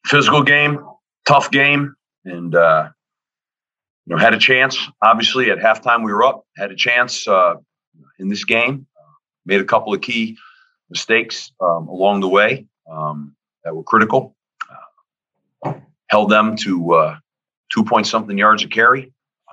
Physical game, tough game, and had a chance. Obviously, at halftime we were up, had a chance in this game. Made a couple of key mistakes along the way that were critical. Held them to 2-point-something yards a carry.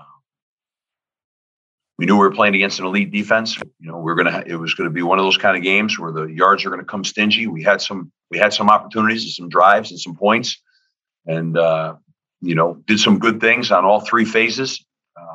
We knew we were playing against an elite defense. It was going to be one of those kind of games where the yards are going to come stingy. We had some opportunities and some drives and some points, and did some good things on all three phases.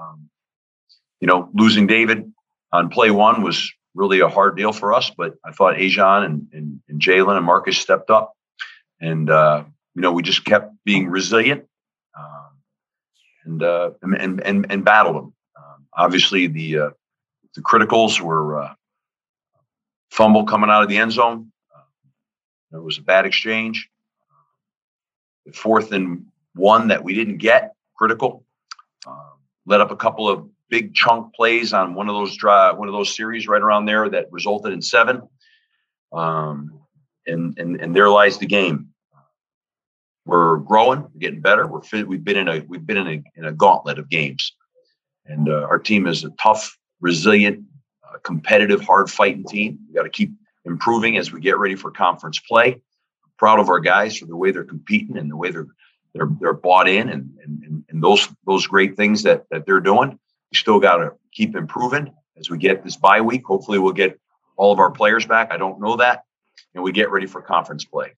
Losing David on play one was really a hard deal for us, but I thought Ajon and Jalen and Marcus stepped up, and we just kept being resilient and battled them. Obviously, the criticals were fumble coming out of the end zone. It was a bad exchange. The 4th and 1 that we didn't get, critical. Let up a couple of big chunk plays on one of those series right around there that resulted in 7. And there lies the game. We're growing, we're getting better. We've been in a gauntlet of games. And our team is a tough, resilient, competitive, hard-fighting team. We got to keep improving as we get ready for conference play. I'm proud of our guys for the way they're competing and the way they're bought in and those great things that they're doing. We still got to keep improving as we get this bye week. Hopefully, we'll get all of our players back. I don't know that, and we get ready for conference play.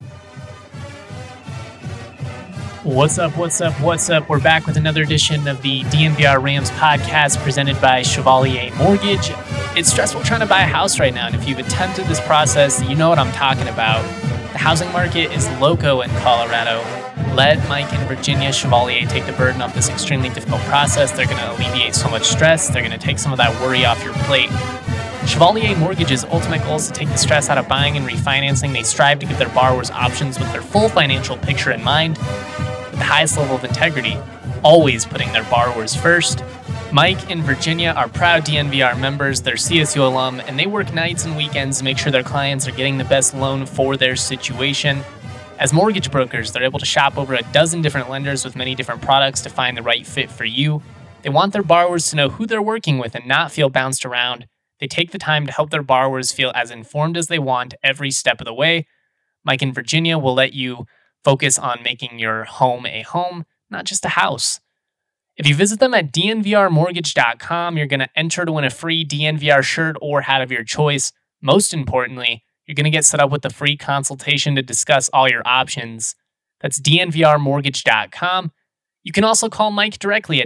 What's up? We're back with another edition of the DNVR Rams podcast presented by Chevalier Mortgage. It's stressful trying to buy a house right now, and if you've attempted this process, you know what I'm talking about. The housing market is loco in Colorado. Let Mike and Virginia Chevalier take the burden of this extremely difficult process. They're going to alleviate so much stress. They're going to take some of that worry off your plate. Chevalier Mortgage's ultimate goal is to take the stress out of buying and refinancing. They strive to give their borrowers options with their full financial picture in mind, the highest level of integrity, always putting their borrowers first. Mike and Virginia are proud DNVR members, they're CSU alum, and they work nights and weekends to make sure their clients are getting the best loan for their situation. As mortgage brokers, they're able to shop over a dozen different lenders with many different products to find the right fit for you. They want their borrowers to know who they're working with and not feel bounced around. They take the time to help their borrowers feel as informed as they want every step of the way. Mike and Virginia will let you focus on making your home a home, not just a house. If you visit them at dnvrmortgage.com, you're going to enter to win a free DNVR shirt or hat of your choice. Most importantly, you're going to get set up with a free consultation to discuss all your options. That's dnvrmortgage.com. You can also call Mike directly at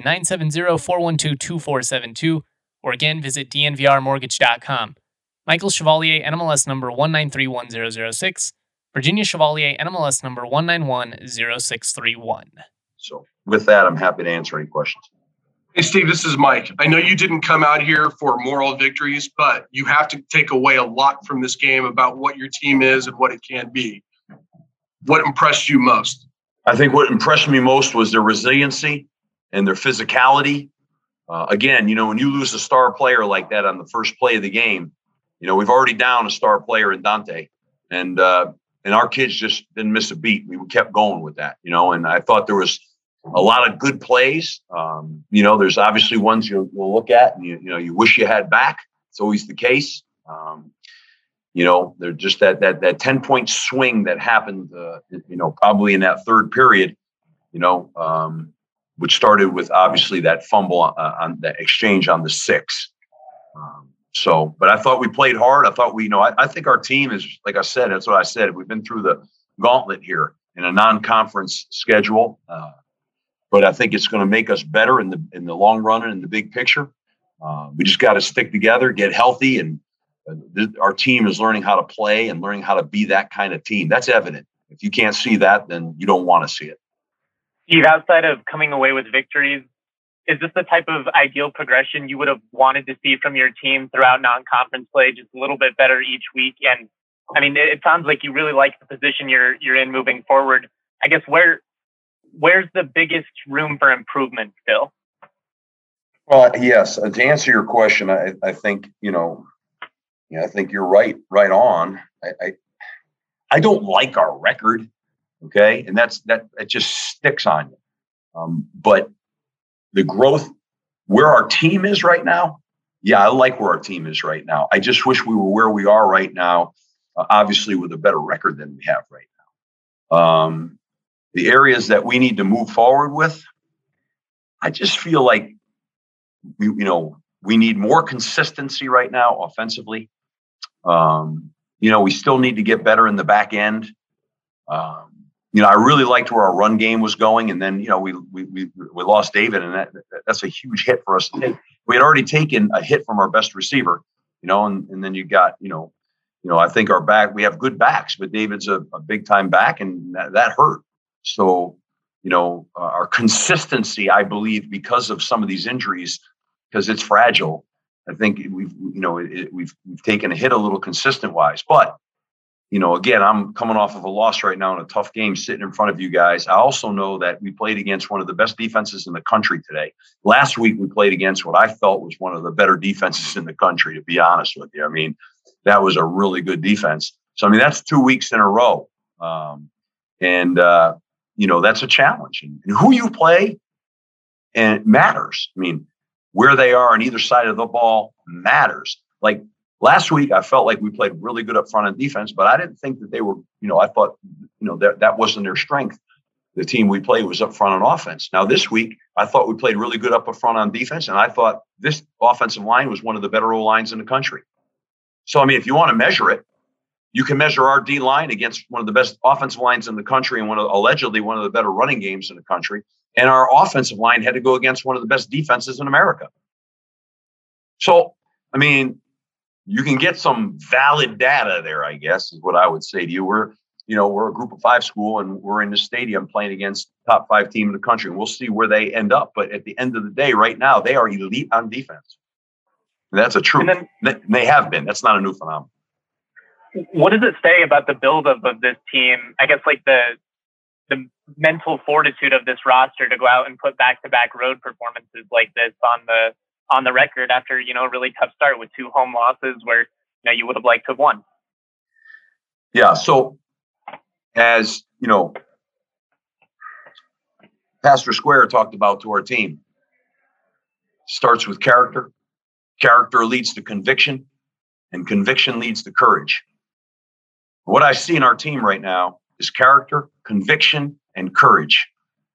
970-412-2472, or again, visit dnvrmortgage.com. Michael Chevalier, NMLS number 1931006. Virginia Chevalier, NMLS number 1910631. So with that, I'm happy to answer any questions. Hey, Steve, this is Mike. I know you didn't come out here for moral victories, but you have to take away a lot from this game about what your team is and what it can be. What impressed you most? I think what impressed me most was their resiliency and their physicality. Again, when you lose a star player like that on the first play of the game, we've already down a star player in Dante. And our kids just didn't miss a beat. We kept going with that, and I thought there was a lot of good plays. There's obviously ones you'll look at and you wish you had back. It's always the case. They're just that 10-point swing that happened, probably in that third period, which started with obviously that fumble on that exchange on the 6. But I thought we played hard. I thought I think our team is, like I said, that's what I said. We've been through the gauntlet here in a non-conference schedule. But I think it's going to make us better in the long run and in the big picture. We just got to stick together, get healthy, and our team is learning how to play and learning how to be that kind of team. That's evident. If you can't see that, then you don't want to see it. Steve, outside of coming away with victories, is this the type of ideal progression you would have wanted to see from your team throughout non-conference play, just a little bit better each week? And I mean, it sounds like you really like the position you're in moving forward. I guess where's the biggest room for improvement still? Well, yes. To answer your question, I think I think you're right on. I don't like our record. Okay. And that just sticks on you. But the growth where our team is right now. Yeah, I like where our team is right now. I just wish we were where we are right now, obviously with a better record than we have right now. The areas that we need to move forward with, I just feel like we need more consistency right now offensively. We still need to get better in the back end. I really liked where our run game was going, and then we lost David, and that's a huge hit for us to take. We had already taken a hit from our best receiver, and then you got I think our back, we have good backs, but David's a big time back, and that hurt. So our consistency, I believe, because of some of these injuries, because it's fragile, I think we've taken a hit a little consistent wise, but. Again, I'm coming off of a loss right now in a tough game sitting in front of you guys. I also know that we played against one of the best defenses in the country today. Last week, we played against what I felt was one of the better defenses in the country, to be honest with you. I mean, that was a really good defense. So, that's 2 weeks in a row. That's a challenge. And who you play, and it matters. Where they are on either side of the ball matters. Like, last week, I felt like we played really good up front on defense, but I didn't think that they were, I thought, that wasn't their strength. The team we played was up front on offense. Now, this week, I thought we played really good up front on defense, and I thought this offensive line was one of the better O-lines in the country. So, if you want to measure it, you can measure our D-line against one of the best offensive lines in the country and allegedly one of the better running games in the country. And our offensive line had to go against one of the best defenses in America. So, you can get some valid data there, I guess, is what I would say to you. We're a group of 5 school, and we're in the stadium playing against top 5 team in the country. And we'll see where they end up. But at the end of the day, right now, they are elite on defense. And that's a truth. They have been. That's not a new phenomenon. What does it say about the buildup of this team? I guess like the mental fortitude of this roster to go out and put back-to-back road performances like this on the record after, a really tough start with 2 home losses where, you would have liked to have won. Yeah. So as, Pastor Square talked about to our team, starts with character. Character leads to conviction, and conviction leads to courage. What I see in our team right now is character, conviction, and courage.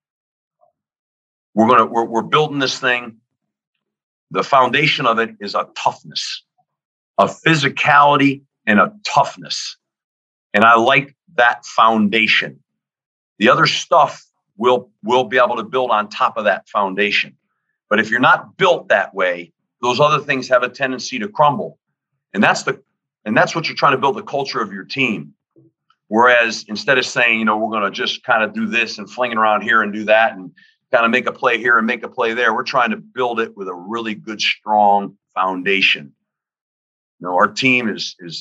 We're building this thing. The foundation of it is a toughness, a physicality, and a toughness. And I like that foundation. The other stuff we'll be able to build on top of that foundation. But if you're not built that way, those other things have a tendency to crumble. And that's what you're trying to build the culture of your team. Whereas instead of saying, we're going to just kind of do this and flinging around here and do that and kind of make a play here and make a play there, we're trying to build it with a really good, strong foundation. Our team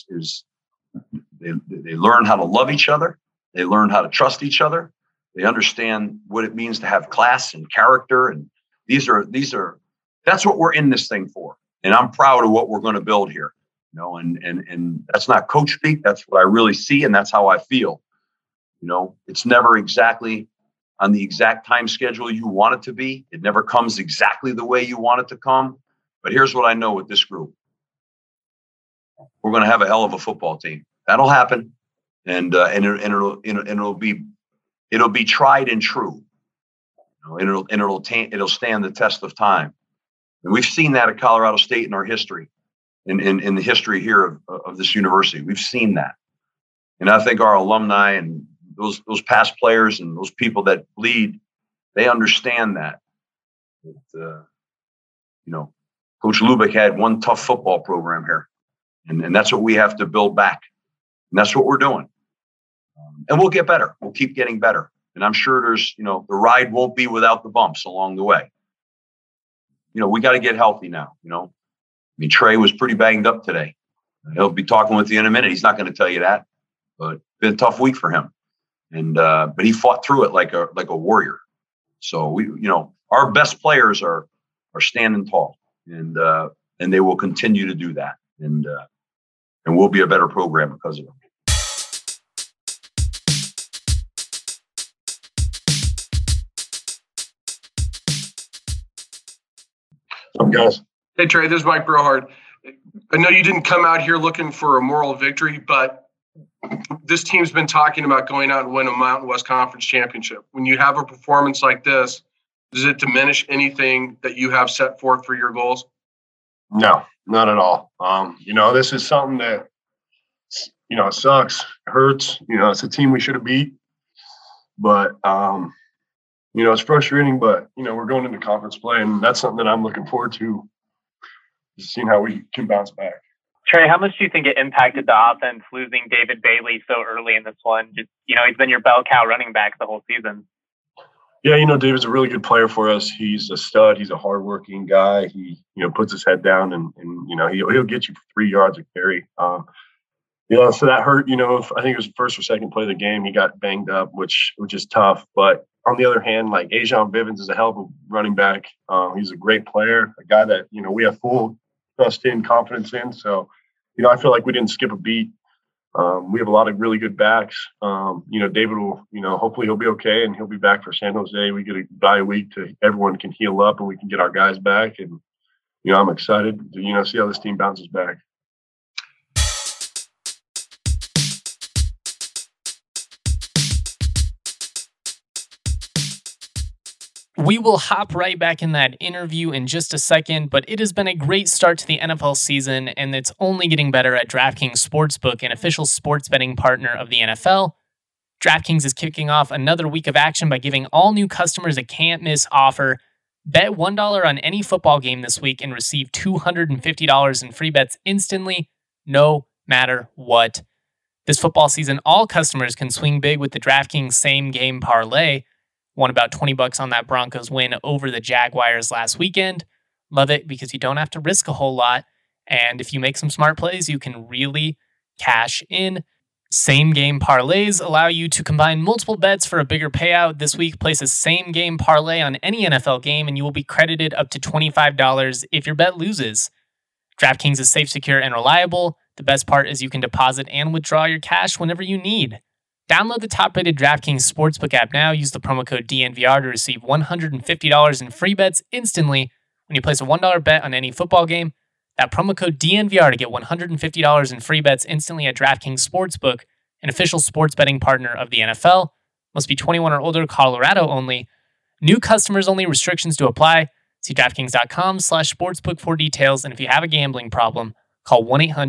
they learn how to love each other. They learn how to trust each other. They understand what it means to have class and character. And that's what we're in this thing for. And I'm proud of what we're going to build here. And that's not coach speak. That's what I really see. And that's how I feel. It's never exactly on the exact time schedule you want it to be. It never comes exactly the way you want it to come. But here's what I know with this group. We're going to have a hell of a football team. That'll happen. And it'll be tried and true. It'll stand the test of time. And we've seen that at Colorado State in our history, in the history here of this university. We've seen that. And I think our alumni and those past players and those people that lead, they understand that. Coach Lubick had one tough football program here. And that's what we have to build back. And that's what we're doing. And we'll get better. We'll keep getting better. And I'm sure there's, the ride won't be without the bumps along the way. We got to get healthy now. Trey was pretty banged up today. He'll be talking with you in a minute. He's not going to tell you that, but it's been a tough week for him. And, but he fought through it like a warrior. So our best players are standing tall, and they will continue to do that. And we'll be a better program because of them. Guys. Hey, Trey, this is Mike Brohard. I know you didn't come out here looking for a moral victory, but this team's been talking about going out and win a Mountain West Conference championship. When you have a performance like this, does it diminish anything that you have set forth for your goals? No, not at all. This is something that, it sucks, it hurts. It's a team we should have beat. But, it's frustrating, but, we're going into conference play, and that's something that I'm looking forward to, seeing how we can bounce back. Trey, how much do you think it impacted the offense losing David Bailey so early in this one? Just, he's been your bell cow running back the whole season. Yeah, David's a really good player for us. He's a stud. He's a hardworking guy. He, puts his head down and he'll get you 3 yards of carry. So that hurt. I think it was the first or second play of the game. He got banged up, which is tough. But on the other hand, like Ajon Bivens is a hell of a running back. He's a great player, a guy that we have full trust in, confidence in. So, I feel like we didn't skip a beat. We have a lot of really good backs. David will, hopefully he'll be okay and he'll be back for San Jose. We get a bye week to everyone can heal up and we can get our guys back. And, I'm excited to, see how this team bounces back. We will hop right back in that interview in just a second, but it has been a great start to the NFL season, and it's only getting better at DraftKings Sportsbook, an official sports betting partner of the NFL. DraftKings is kicking off another week of action by giving all new customers a can't-miss offer. Bet $1 on any football game this week and receive $250 in free bets instantly, no matter what. This football season, all customers can swing big with the DraftKings same-game parlay. Won about $20 on that Broncos win over the Jaguars last weekend. Love it because you don't have to risk a whole lot. And if you make some smart plays, you can really cash in. Same game parlays allow you to combine multiple bets for a bigger payout. This week, place a same game parlay on any NFL game and you will be credited up to $25 if your bet loses. DraftKings is safe, secure, and reliable. The best part is you can deposit and withdraw your cash whenever you need. Download the top-rated DraftKings Sportsbook app now. Use the promo code DNVR to receive $150 in free bets instantly when you place a $1 bet on any football game. That promo code DNVR to get $150 in free bets instantly at DraftKings Sportsbook, an official sports betting partner of the NFL. Must be 21 or older, Colorado only. New customers only, restrictions to apply. See DraftKings.com/sportsbook for details. And if you have a gambling problem, call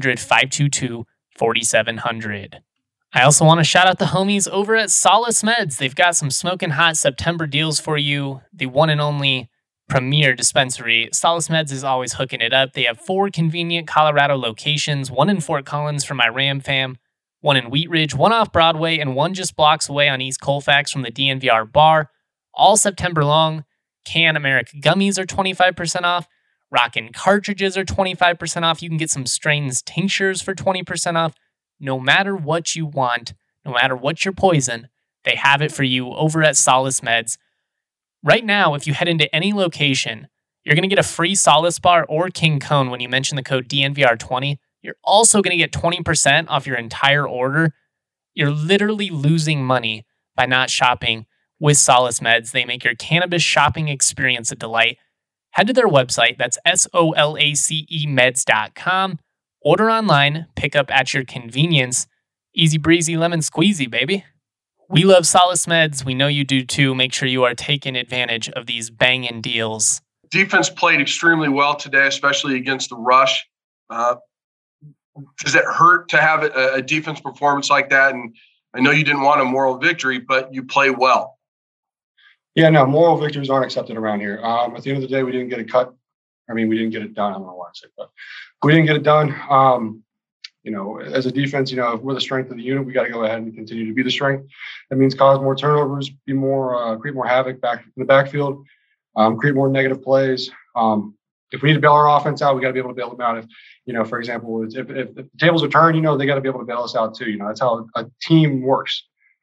1-800-522-4700. I also want to shout out the homies over at Solace Meds. They've got some smoking hot September deals for you. The one and only premier dispensary. Solace Meds is always hooking it up. They have 4 convenient Colorado locations, 1 in Fort Collins for my Ram fam, 1 in Wheat Ridge, 1 off Broadway, and 1 just blocks away on East Colfax from the DNVR bar. All September long. Can America gummies are 25% off. Rockin' cartridges are 25% off. You can get some strains tinctures for 20% off. No matter what you want, no matter what your poison, they have it for you over at Solace Meds. Right now, if you head into any location, you're going to get a free Solace bar or King Cone when you mention the code DNVR20. You're also going to get 20% off your entire order. You're literally losing money by not shopping with Solace Meds. They make your cannabis shopping experience a delight. Head to their website, that's SOLACEmeds.com. Order online, pick up at your convenience. Easy breezy lemon squeezy, baby. We love Solace Meds. We know you do too. Make sure you are taking advantage of these banging deals. Defense played extremely well today, especially against the rush. Does it hurt to have a defense performance like that? And I know you didn't want a moral victory, but you play well. Yeah, no, moral victories aren't accepted around here. At the end of the day, we didn't get a cut. We didn't get it done. I don't know why I said that. We didn't get it done. As a defense, if we're the strength of the unit, we got to go ahead and continue to be the strength. That means cause more turnovers, create more havoc back in the backfield, create more negative plays. If we need to bail our offense out, we got to be able to bail them out. If, for example, if the tables are turned, they got to be able to bail us out too. That's how a team works.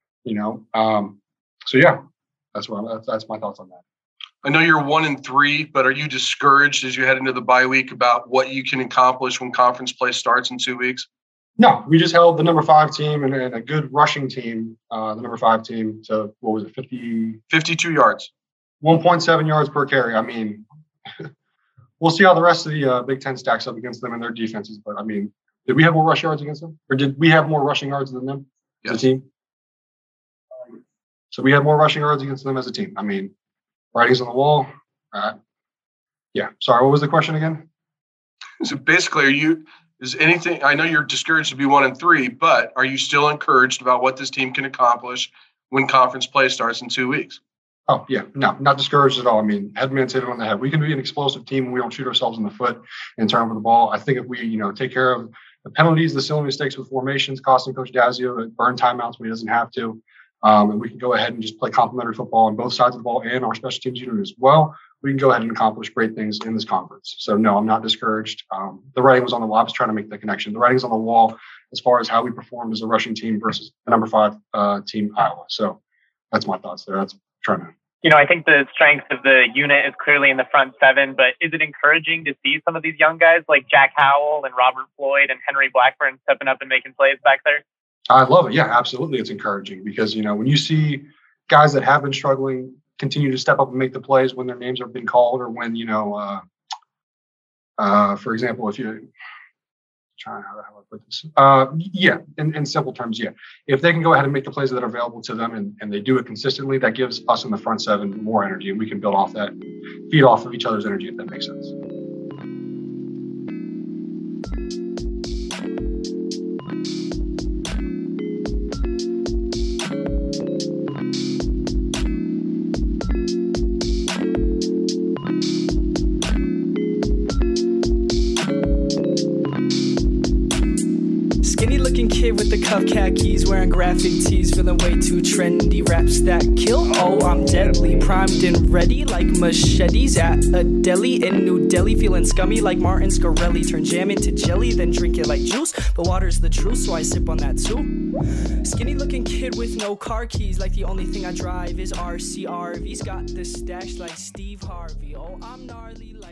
So yeah, that's my thoughts on that. I know you're 1-3, but are you discouraged as you head into the bye week about what you can accomplish when conference play starts in 2 weeks? No, we just held the number 5 team and a good rushing team, the number 5 team to, 52 yards, 1.7 yards per carry. we'll see how the rest of the Big Ten stacks up against them and their defenses. But I mean, did we have more rush yards against them, or did we have more rushing yards than them as a team? So we had more rushing yards against them as a team. I mean, writings on the wall. Yeah. Sorry, what was the question again? So basically, anything? I know you're discouraged to be 1-3, but are you still encouraged about what this team can accomplish when conference play starts in 2 weeks? Oh, yeah. No, not discouraged at all. I mean, Headman's hit it on the head. We can be an explosive team when we don't shoot ourselves in the foot and turn over the ball. I think if we, take care of the penalties, the silly mistakes with formations, costing Coach Dazio, burn timeouts when he doesn't have to, and we can go ahead and just play complementary football on both sides of the ball and our special teams unit as well, we can go ahead and accomplish great things in this conference. So, no, I'm not discouraged. The writing was on the wall. I was trying to make the connection. The writing's on the wall as far as how we performed as a rushing team versus the number 5 team, Iowa. So that's my thoughts there. That's trying to. I think the strength of the unit is clearly in the front seven, but is it encouraging to see some of these young guys like Jack Howell and Robert Floyd and Henry Blackburn stepping up and making plays back there? I love it. Yeah, absolutely. It's encouraging because, when you see guys that have been struggling continue to step up and make the plays when their names have been called, or when, for example, if you trying how do I put this? Yeah, in simple terms, yeah. If they can go ahead and make the plays that are available to them and they do it consistently, that gives us in the front seven more energy, and we can build off that, feed off of each other's energy, if that makes sense. With the cuff khakis, wearing graphic tees, feeling way too trendy. Raps that kill, oh, I'm deadly. Primed and ready like machetes at a deli in New Delhi. Feeling scummy like Martin Scarelli. Turn jam into jelly, then drink it like juice. But water's the truth, so I sip on that too. Skinny looking kid with no car keys, like the only thing I drive is RCRV's got the stash like Steve Harvey. Oh, I'm gnarly like